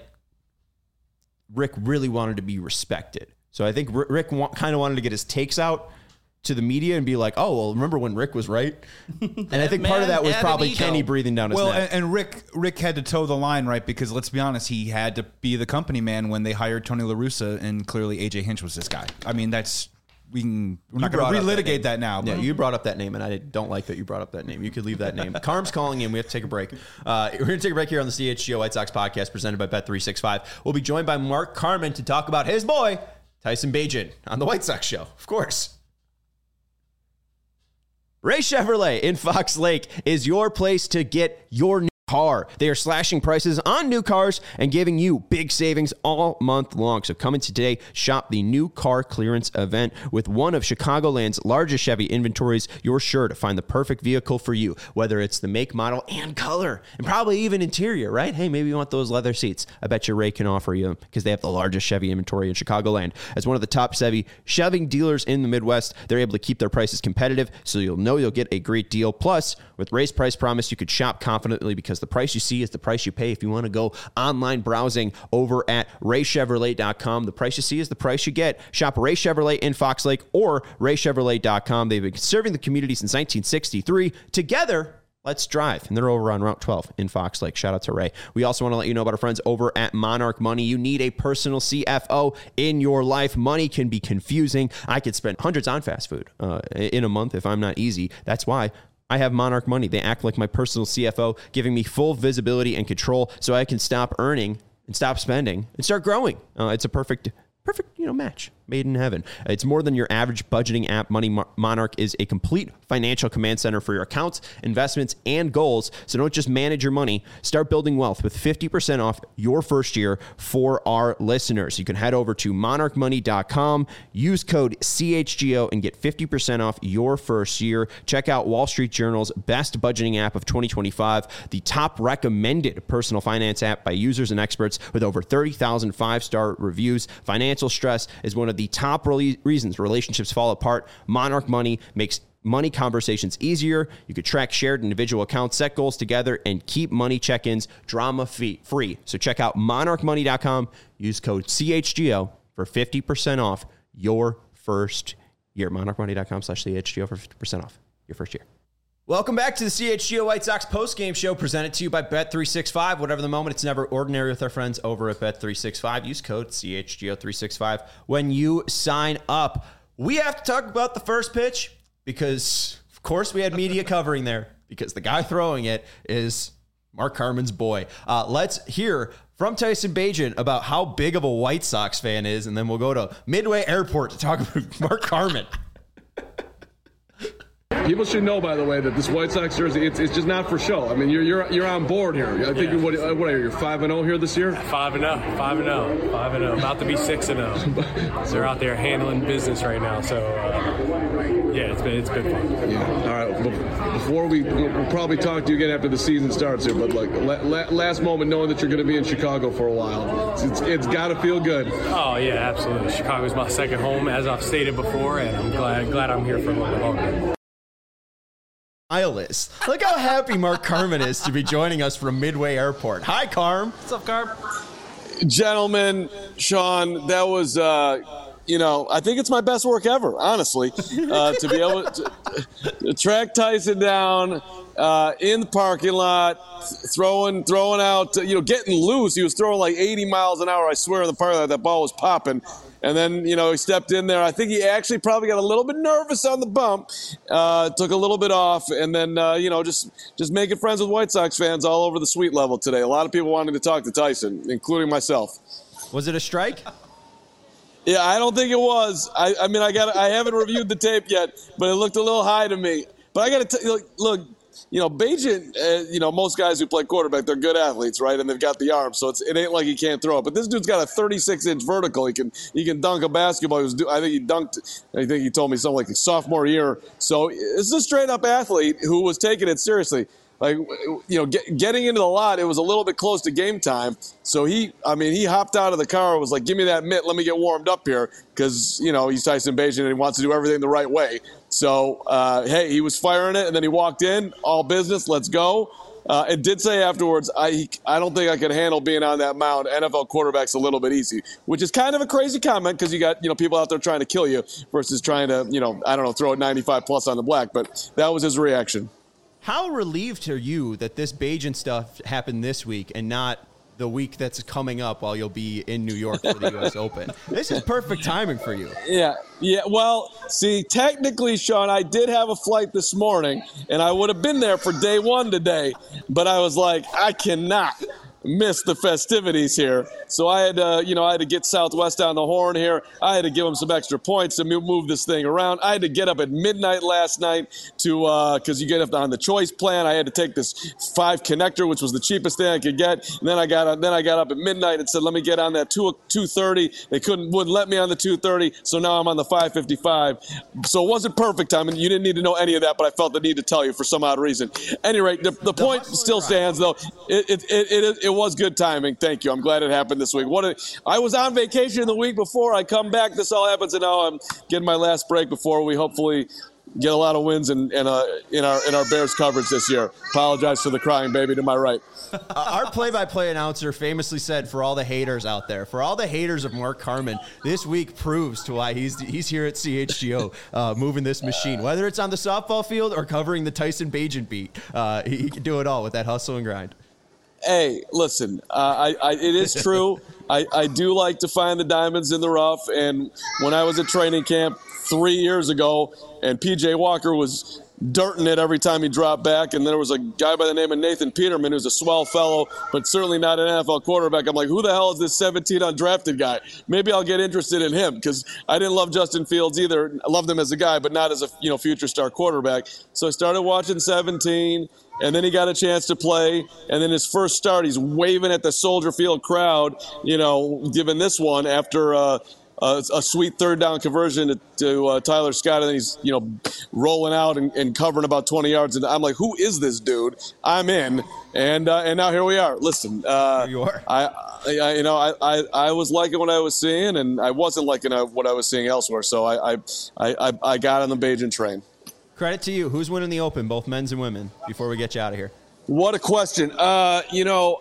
Rick really wanted to be respected. So I think Rick wa- kind of wanted to get his takes out to the media and be like, oh, well, remember when Rick was right? And I think part of that was probably Kenny breathing down his well, neck. And, and Rick Rick had to toe the line, right? Because let's be honest, he had to be the company man when they hired Tony La Russa, and clearly A J Hinch was this guy. I mean, that's we can we're not going to relitigate that, that now. Yeah, you brought up that name, and I don't like that you brought up that name. You could leave that name. Carm's calling in. We have to take a break. Uh, we're going to take a break here on the C H G O White Sox podcast presented by Bet three sixty-five. We'll be joined by Mark Carman to talk about his boy, Tyson Bagent, on the White Sox show, of course. Ray Chevrolet in Fox Lake is your place to get your new car. They are slashing prices on new cars and giving you big savings all month long. So come in today, shop the new car clearance event with one of Chicagoland's largest Chevy inventories. You're sure to find the perfect vehicle for you, whether it's the make, model, and color, and probably even interior, right? Hey, maybe you want those leather seats. I bet your Ray can offer you because they have the largest Chevy inventory in Chicagoland. As one of the top Chevy Chevy dealers in the Midwest, they're able to keep their prices competitive, so you'll know you'll get a great deal. Plus, with Ray's Price Promise, you could shop confidently because the price you see is the price you pay. If you want to go online browsing over at ray chevrolet dot com, the price you see is the price you get. Shop Ray Chevrolet in Fox Lake or ray chevrolet dot com. They've been serving the community since nineteen sixty-three. Together, let's drive. And they're over on Route twelve in Fox Lake. Shout out to Ray. We also want to let you know about our friends over at Monarch Money. You need a personal C F O in your life. Money can be confusing. I could spend hundreds on fast food uh, in a month if I'm not easy. That's why I have Monarch Money. They act like my personal C F O, giving me full visibility and control so I can stop earning and stop spending and start growing. Uh, it's a perfect, perfect, you know, match made in heaven. It's more than your average budgeting app. Money Monarch is a complete financial command center for your accounts, investments, and goals. So don't just manage your money. Start building wealth with fifty percent off your first year for our listeners. You can head over to monarch money dot com, use code C H G O, and get fifty percent off your first year. Check out Wall Street Journal's best budgeting app of twenty twenty-five, the top recommended personal finance app by users and experts with over thirty thousand five-star reviews. Financial stress is one of the top re- reasons relationships fall apart. Monarch Money makes money conversations easier. You could track shared individual accounts, set goals together, and keep money check-ins drama free. So check out monarch money dot com. Use code C H G O for fifty percent off your first year. monarch money dot com slash C H G O for fifty percent off your first year. Welcome back to the C H G O White Sox postgame show presented to you by Bet three sixty-five. Whatever the moment, it's never ordinary with our friends over at Bet three sixty-five. Use code C H G O three sixty-five when you sign up. We have to talk about the first pitch because, of course, we had media covering there because the guy throwing it is Mark Carman's boy. Uh, let's hear from Tyson Bagent about how big of a White Sox fan is, and then we'll go to Midway Airport to talk about Mark Carman. People should know, by the way, that this White Sox jersey, it's, it's just not for show. I mean, you're you're you're on board here. I think yeah. what, what are you, you're five and oh here this year? five and oh, five and oh, five and oh, about to be six and oh. So they're out there handling business right now. So, uh, yeah, it's been it's been fun. Yeah. All right. Before we, we'll probably talk to you again after the season starts here, but like la- la- last moment, knowing that you're going to be in Chicago for a while, it's, it's, it's got to feel good. Oh yeah, absolutely. Chicago's my second home, as I've stated before, and I'm glad glad I'm here for a little bit longer. Is. Look how happy Mark Carman is to be joining us from Midway Airport. Hi, Carm. What's up, Carm? Gentlemen, Sean, that was, uh, you know, I think it's my best work ever, honestly, uh, to be able to, to track Tyson down uh, in the parking lot, throwing, throwing out, you know, getting loose. He was throwing like eighty miles an hour, I swear, in the parking lot. That ball was popping. And then, you know, he stepped in there. I think he actually probably got a little bit nervous on the bump, uh, took a little bit off, and then, uh, you know, just just making friends with White Sox fans all over the suite level today. A lot of people wanted to talk to Tyson, including myself. Was it a strike? Yeah, I don't think it was. I, I mean, I got I haven't reviewed the tape yet, but it looked a little high to me. But I got to tell you, look, you know, Bagent, uh, you know, most guys who play quarterback, they're good athletes, right? And they've got the arm, so it's, it ain't like he can't throw it. But this dude's got a thirty-six inch vertical. He can he can dunk a basketball. He was, I think he dunked, I think he told me something like his sophomore year. So it's a straight-up athlete who was taking it seriously. Like, you know, get, getting into the lot, it was a little bit close to game time. So he, I mean, he hopped out of the car and was like, give me that mitt, let me get warmed up here. Because, you know, he's Tyson Bagent and he wants to do everything the right way. So, uh, hey, he was firing it, and then he walked in, all business, let's go. Uh, it did say afterwards, I I don't think I could handle being on that mound. N F L quarterback's a little bit easy, which is kind of a crazy comment because you got, you know, people out there trying to kill you versus trying to, you know, I don't know, throw it ninety-five plus on the black. But that was his reaction. How relieved are you that this Bagent stuff happened this week and not the week that's coming up while you'll be in New York for the U S Open? This is perfect timing for you. Yeah, yeah. Well, see, technically, Sean, I did have a flight this morning, and I would have been there for day one today, but I was like, I cannot miss the festivities here. So I had to, you know, I had to get Southwest on the horn here. I had to give them some extra points to move this thing around. I had to get up at midnight last night to, uh, because you get up on the choice plan. I had to take this five connector, which was the cheapest thing I could get. And then I got, then I got up at midnight and said, let me get on that two two thirty. They couldn't, wouldn't let me on the two thirty. So now I'm on the five fifty-five. So it wasn't perfect time, and you didn't need to know any of that, but I felt the need to tell you for some odd reason. Anyway, the, the point still stands, though. It it it, it, it was good timing. Thank you. I'm glad it happened this week. What a, I was on vacation the week before. I come back. This all happens, and now I'm getting my last break before we hopefully get a lot of wins in, in, uh, in our in our Bears coverage this year. Apologize for the crying baby to my right. Uh, our play-by-play announcer famously said, for all the haters out there, for all the haters of Mark Carman, this week proves to why he's he's here at C H G O uh, moving this machine. Whether it's on the softball field or covering the Tyson Bagent beat, uh, he, he can do it all with that hustle and grind. Hey, listen, uh, I, I, it is true. I, I do like to find the diamonds in the rough. And when I was at training camp three years ago and P J Walker was dirting it every time he dropped back, and there was a guy by the name of Nathan Peterman who's a swell fellow, but certainly not an N F L quarterback. I'm like, who the hell is this seventeen undrafted guy? Maybe I'll get interested in him because I didn't love Justin Fields either. I loved him as a guy, but not as a you know future star quarterback. So I started watching seventeen. And then he got a chance to play. And then his first start, he's waving at the Soldier Field crowd, you know, giving this one after uh, a, a sweet third down conversion to, to uh, Tyler Scott. And then he's, you know, rolling out and, and covering about twenty yards. And I'm like, who is this dude? I'm in. And uh, and now here we are. Listen, uh, here you are. I, I, you know, I, I, I was liking what I was seeing, and I wasn't liking what I was seeing elsewhere. So I, I, I, I got on the Bagent train. Credit to you. Who's winning the Open, both men's and women, before we get you out of here? What a question. Uh, you know,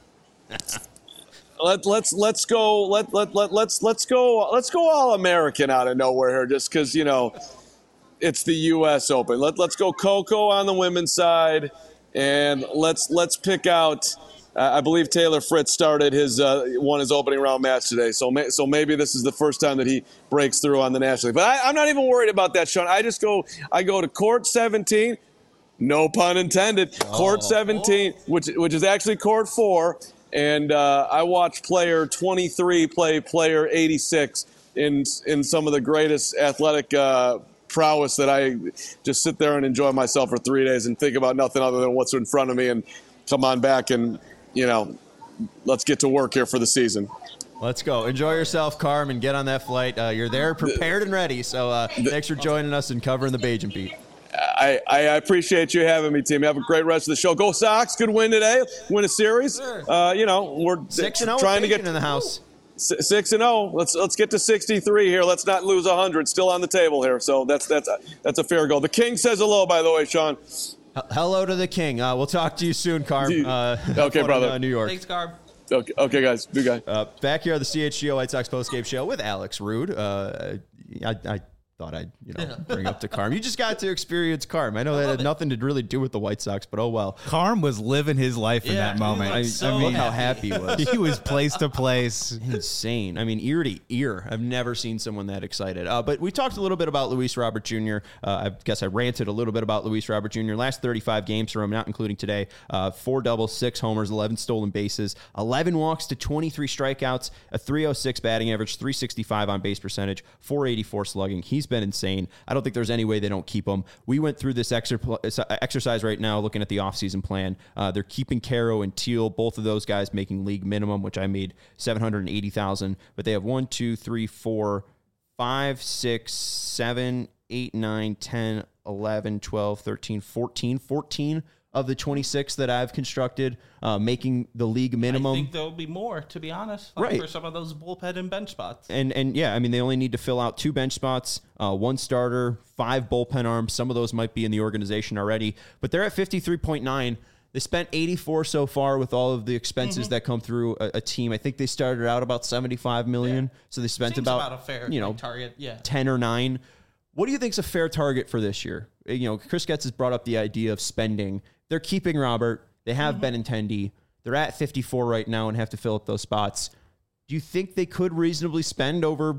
let let's let's go let let let let's let's go let's go all American out of nowhere here, just because you know it's the U S Open. Let let's go Coco on the women's side, and let's let's pick out. Uh, I believe Taylor Fritz started his uh, won his opening round match today, so may, so maybe this is the first time that he breaks through on the National League. But I, I'm not even worried about that, Sean. I just go I go to court seventeen, no pun intended, oh. court seventeen, which which is actually court four, and uh, I watch player twenty-three play player eighty-six in in some of the greatest athletic uh, prowess that I just sit there and enjoy myself for three days and think about nothing other than what's in front of me and come on back and. You know, let's get to work here for the season. Let's go. Enjoy yourself, Carm, and get on that flight. Uh, you're there, prepared and ready. So uh, thanks for joining us and covering the Bagent beat. I, I appreciate you having me, team. Have a great rest of the show. Go Sox. Good win today. Win a series. Sure. Uh, you know, we're six and trying to get in the house. Six and zero. Let's let's get to sixty-three here. Let's not lose a hundred. Still on the table here. So that's that's a, that's a fair goal. The King says hello, by the way, Sean. Hello to the King. Uh, we'll talk to you soon, Carm. Uh, okay, brother. In, uh, New York. Thanks, Carm. Okay, okay, guys. Good guy. Uh, back here at the C H G O White Sox postgame show with Alex Rude. Uh, I, I thought I'd you know yeah. bring up to Carm. You just got to experience Carm. I know I that had it. nothing to really do with the White Sox, but oh well. Carm was living his life in yeah, that moment. I, so I mean, how happy he was. He was place to place. Insane. I mean, ear to ear. I've never seen someone that excited. Uh, but we talked a little bit about Luis Robert Junior Uh, I guess I ranted a little bit about Luis Robert Junior Last thirty-five games for him, not including today. Uh, four doubles, six homers, eleven stolen bases, eleven walks to twenty-three strikeouts, a three oh six batting average, three sixty-five on base percentage, four eighty-four slugging. He's been insane. I don't think there's any way they don't keep him. We went through this exercise right now looking at the offseason plan. Uh, they're keeping Caro and Teal, both of those guys making league minimum, which I made seven hundred eighty thousand dollars. But they have one, two, three, four, five, six, seven, eight, nine, ten, eleven, twelve, thirteen, fourteen, fourteen of the twenty-six that I've constructed, uh, making the league minimum. I think there'll be more, to be honest, right. for some of those bullpen and bench spots. And, and yeah, I mean, they only need to fill out two bench spots, uh, one starter, five bullpen arms. Some of those might be in the organization already, but they're at fifty-three point nine. They spent eighty-four so far with all of the expenses Mm-hmm. that come through a, a team. I think they started out about seventy-five million. Yeah. So they spent Seems about, about a fair you know, like, target. Yeah. ten or nine. What do you think is a fair target for this year? You know, Chris Getz has brought up the idea of spending. They're keeping Robert. They have Mm-hmm. Benintendi. They're at fifty-four right now and have to fill up those spots. Do you think they could reasonably spend over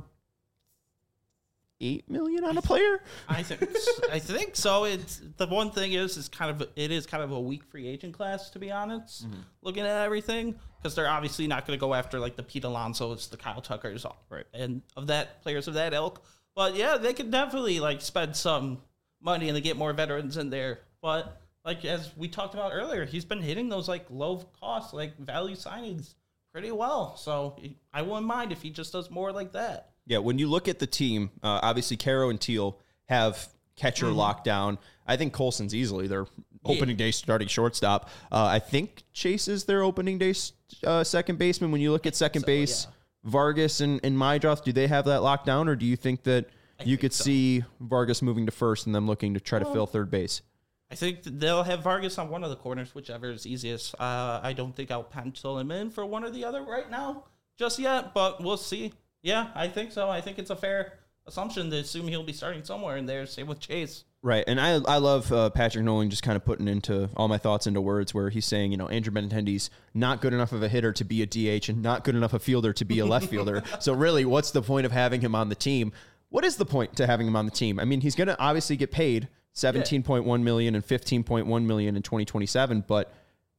eight million on a player? I think I think so. It's the one thing is is kind of it is kind of a weak free agent class, to be honest. Mm-hmm. Looking at everything, because they're obviously not going to go after like the Pete Alonso's, the Kyle Tuckers, Right. and of that players of that ilk. But yeah, they could definitely like spend some money and they get more veterans in there. But like as we talked about earlier, he's been hitting those like low cost like value signings pretty well. So I wouldn't mind if he just does more like that. Yeah, when you look at the team, uh, obviously Caro and Teal have catcher Mm-hmm. lockdown. I think Colson's easily their opening day starting shortstop. Uh, I think Chase is their opening day uh, second baseman. When you look at second so, base, yeah. Vargas and, and Maedroth, do they have that locked down, or do you think that you think could so. see Vargas moving to first and them looking to try to fill third base? I think they'll have Vargas on one of the corners, whichever is easiest. Uh, I don't think I'll pencil him in for one or the other right now just yet, but we'll see. Yeah, I think so. I think it's a fair assumption to assume he'll be starting somewhere in there. Same with Chase. Right, and I I love uh, Patrick Nolan just kind of putting into all my thoughts into words where he's saying, you know, Andrew Benintendi's not good enough of a hitter to be a D H and not good enough a fielder to be a left fielder. So really, what's the point of having him on the team? What is the point to having him on the team? I mean, he's going to obviously get paid seventeen point one million dollars and fifteen point one million dollars in twenty twenty-seven, but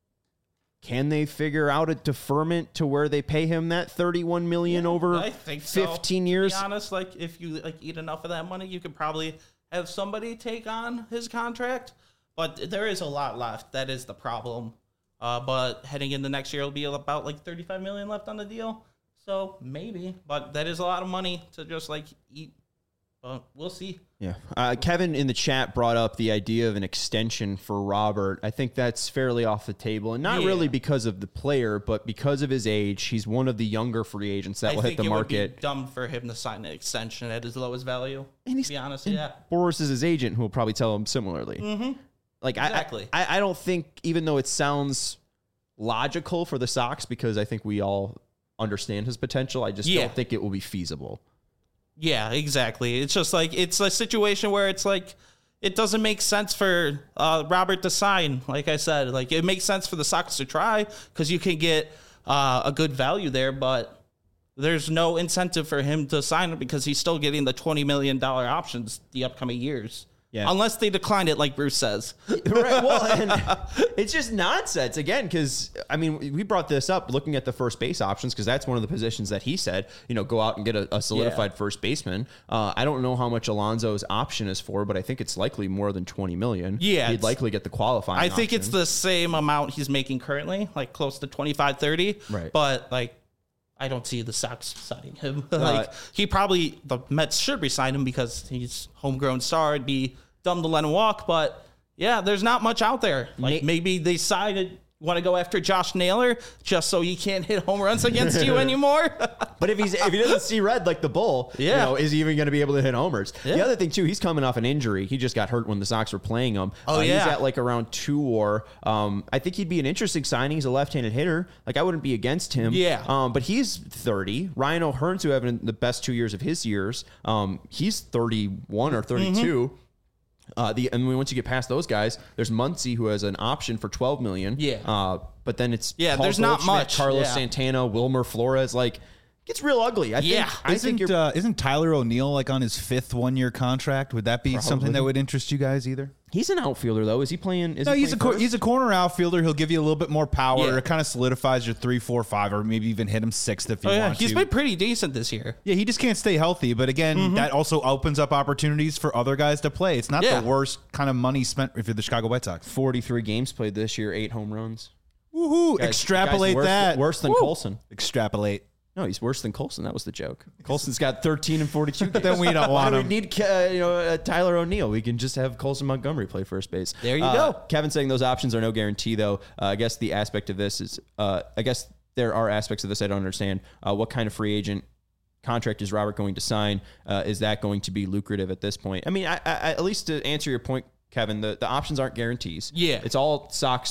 can they figure out a deferment to where they pay him that thirty-one million dollars over I think so. fifteen To years? be honest, like if you like eat enough of that money, you could probably have somebody take on his contract. But there is a lot left. That is the problem. Uh, but heading into next year, it'll be about like thirty-five million dollars left on the deal. So maybe, but that is a lot of money to just like eat. But we'll see. Yeah. Uh, Kevin in the chat brought up the idea of an extension for Robert. I think that's fairly off the table, and not Yeah. really because of the player, but because of his age. He's one of the younger free agents that I will think hit the it market. would be dumb for him to sign an extension at his lowest value. And he's- to be honest, and yeah. Boris is his agent, who will probably tell him similarly. Mm-hmm. Like Exactly. I, I, I don't think, even though it sounds logical for the Sox, because I think we all understand his potential, I just Yeah. don't think it will be feasible. Yeah, exactly. It's just like it's a situation where it's like it doesn't make sense for uh, Robert to sign. Like I said, like it makes sense for the Sox to try because you can get uh, a good value there, but there's no incentive for him to sign it because he's still getting the twenty million dollars options the upcoming years. Yeah. Unless they decline it, like Bruce says. Right. Well, and it's just nonsense again, because I mean, we brought this up looking at the first base options, because that's one of the positions that he said, you know, go out and get a, a solidified Yeah. first baseman. Uh, I don't know how much Alonso's option is for, but I think it's likely more than twenty million. Yeah, he'd it's- likely get the qualifying. I think it's option. the same amount he's making currently, like close to twenty-five, thirty. Right. But like, I don't see the Sox signing him. like he probably, the Mets should resign him because he's homegrown star. It'd be dumb to let him walk. But yeah, there's not much out there. Like Ma- maybe they decided want to go after Josh Naylor just so he can't hit home runs against you anymore. But if he's if he doesn't see red like the bull, Yeah. you know, is he even going to be able to hit homers? The Yeah. other thing too, he's coming off an injury. He just got hurt when the Sox were playing him. Oh, uh, yeah. he's at like around two WAR. Um, I think he'd be an interesting signing. He's a left-handed hitter. Like I wouldn't be against him. Yeah. Um, but he's thirty. Ryan O'Hearn's who having the best two years of his years. Um, he's thirty-one or thirty-two. Mm-hmm. Uh, the and once you get past those guys, there's Muncy who has an option for twelve million. Yeah. Uh, but then it's Yeah, Paul there's not Goldschmidt, much. Carlos Yeah. Santana, Wilmer Flores. Like, gets real ugly. I Yeah. think. I think Isn't you're. uh, isn't Tyler O'Neill like on his fifth one year contract? Would that be something that would interest you guys either? he's an outfielder though. Is he playing? Is No, he he's a playing cor- he's a corner outfielder. He'll give you a little bit more power. Yeah. It kind of solidifies your three, four, five, or maybe even hit him sixth if you Oh, yeah. want He's to. been pretty decent this year. Yeah, he just can't stay healthy. But again, that also opens up opportunities for other guys to play. It's not Yeah. the worst kind of money spent if you're the Chicago White Sox. forty-three games played this year, eight home runs. Woohoo! Guys- Extrapolate guys worse, that. Worse than Woo. Colson. Extrapolate. No, he's worse than Colson. That was the joke. Colson's got thirteen and forty-two games. Then we don't Why want do we him. need uh, you know uh, Tyler O'Neill? We can just have Colson Montgomery play first base. There you Uh, go. Kevin saying those options are no guarantee, though. Uh, I guess the aspect of this is, uh, I guess there are aspects of this I don't understand. Uh, what kind of free agent contract is Robert going to sign? Uh, is that going to be lucrative at this point? I mean, I, I, at least to answer your point, Kevin, the, the options aren't guarantees. Yeah. It's all Sox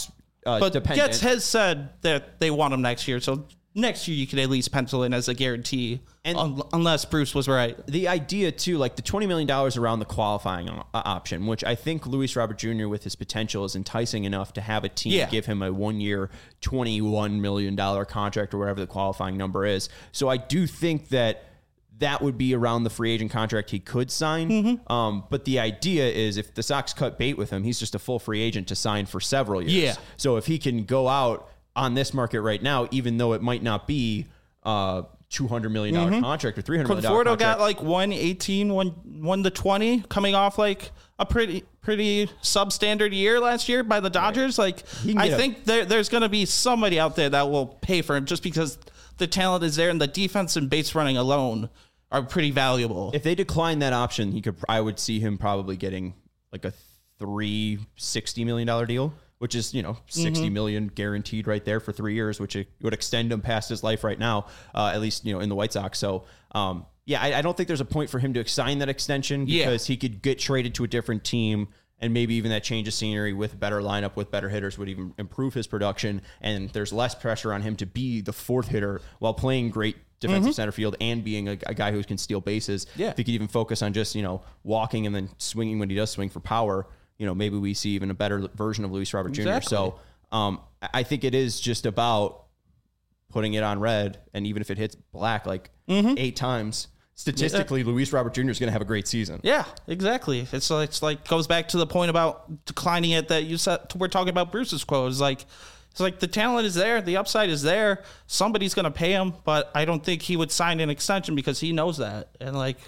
uh, but dependent. Getz has said that they want him next year, so next year you could at least pencil in as a guarantee, And- un- unless Bruce was right. The idea, too, like the twenty million dollars around the qualifying uh, option, which I think Luis Robert Junior with his potential is enticing enough to have a team Yeah. give him a one-year, twenty-one million dollars contract or whatever the qualifying number is. So I do think that that would be around the free agent contract he could sign. Mm-hmm. Um, but the idea is if the Sox cut bait with him, he's just a full free agent to sign for several years. Yeah. So if he can go out on this market right now, even though it might not be uh two hundred million dollars Mm-hmm. contract or three hundred million dollars Conforto contract. got like one eighteen, one, one to twenty, coming off like a pretty pretty substandard year last year by the Dodgers. Like, can I get a- think there, there's going to be somebody out there that will pay for him just because the talent is there and the defense and base running alone are pretty valuable. If they decline that option, he could. I would see him probably getting like a three sixty million dollar deal, which is you know sixty Mm-hmm. million guaranteed right there for three years, which it would extend him past his life right now, uh, at least you know in the White Sox. So um, yeah, I, I don't think there's a point for him to sign that extension because Yeah. he could get traded to a different team. And maybe even that change of scenery with a better lineup, with better hitters would even improve his production. And there's less pressure on him to be the fourth hitter while playing great defensive center field and being a, a guy who can steal bases. Yeah. If he could even focus on just, you know, walking and then swinging when he does swing for power, you know, maybe we see even a better version of Luis Robert Junior Exactly. So um, I I think it is just about putting it on red. And even if it hits black like eight times, statistically, Luis Robert Junior is going to have a great season. Yeah, exactly. It's like, it's like goes back to the point about declining it that you said. We're talking about Bruce's quote. It's like it's like the talent is there, the upside is there. Somebody's going to pay him, but I don't think he would sign an extension because he knows that. And like,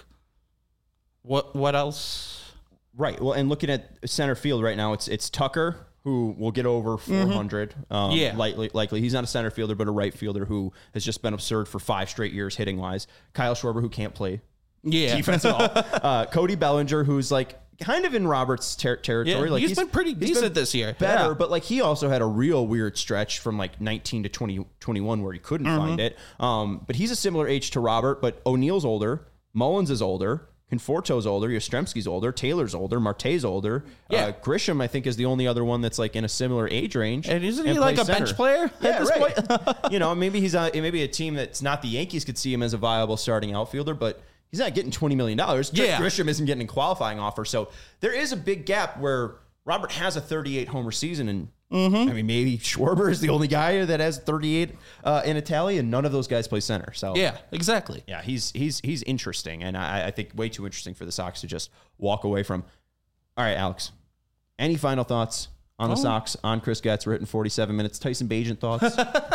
what what else? Right. Well, and looking at center field right now, it's it's Tucker, who will get over four hundred. Um, Yeah. Likely, likely. He's not a center fielder, but a right fielder who has just been absurd for five straight years hitting wise. Kyle Schwarber, who can't play Yeah, defense at all. Uh, Cody Bellinger, who's like kind of in Robert's ter- territory. Yeah, like he's been pretty decent this year. Better, Yeah. but like he also had a real weird stretch from like nineteen to twenty, twenty-one where he couldn't Mm-hmm. find it. Um, but he's a similar age to Robert, but O'Neill's older. Mullins is older. Conforto's older, Yastrzemski's older, Taylor's older, Marte's older. Yeah. Uh, Grisham, I think, is the only other one that's like in a similar age range. And isn't he like plays a bench center. player at Yeah, this right. point? you know, maybe he's a, maybe a team that's not the Yankees could see him as a viable starting outfielder, but he's not getting twenty million dollars. Yeah. Grisham isn't getting a qualifying offer. So there is a big gap where Robert has a thirty-eight homer season, and Mm-hmm. I mean, maybe Schwarber is the only guy that has thirty-eight uh, in Italy, and none of those guys play center. So Yeah, exactly. yeah, he's he's he's interesting, and I, I think way too interesting for the Sox to just walk away from. All right, Alex, any final thoughts on the Oh. Sox, on Chris Getz, written forty-seven minutes? Tyson Bagent thoughts?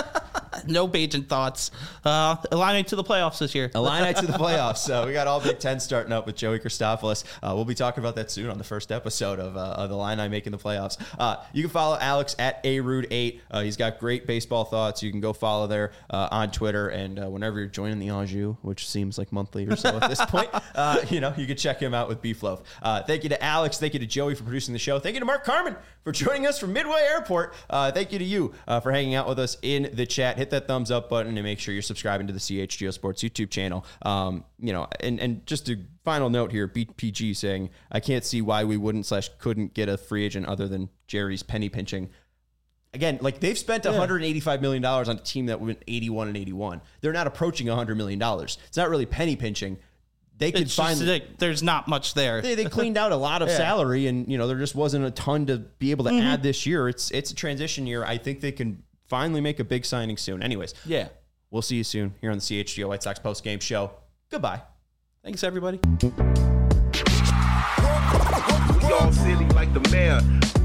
No Bajan thoughts. Uh, Illini to the playoffs this year. Illini to the playoffs. So we got all Big Ten starting up with Joey Christopoulos. Uh, we'll be talking about that soon on the first episode of, uh, of the Illini making the playoffs. Uh, you can follow Alex at A Rude eight. Uh, he's got great baseball thoughts. You can go follow there uh, on Twitter. And uh, whenever you're joining the Anjou, which seems like monthly or so at this point, uh, you know, you can check him out with Beef Loaf. Uh, thank you to Alex. Thank you to Joey for producing the show. Thank you to Mark Carmen for joining us from Midway Airport. Uh, thank you to you uh, for hanging out with us in the chat. Hit that thumbs up button and make sure you're subscribing to the C H G O Sports YouTube channel. Um, you know, and, and just a final note here, B P G saying, I can't see why we wouldn't slash couldn't get a free agent other than Jerry's penny pinching. Again, like they've spent one hundred eighty-five million dollars on a team that went eighty-one and eighty-one. They're not approaching one hundred million dollars. It's not really penny pinching. They could It's find just like, there's not much there. they, they cleaned out a lot of salary, and you know there just wasn't a ton to be able to Mm-hmm. add this year. It's it's a transition year. I think they can finally make a big signing soon. Anyways, Yeah. we'll see you soon here on the C H G O White Sox post game show. Goodbye. Thanks, everybody. We all silly like the mayor.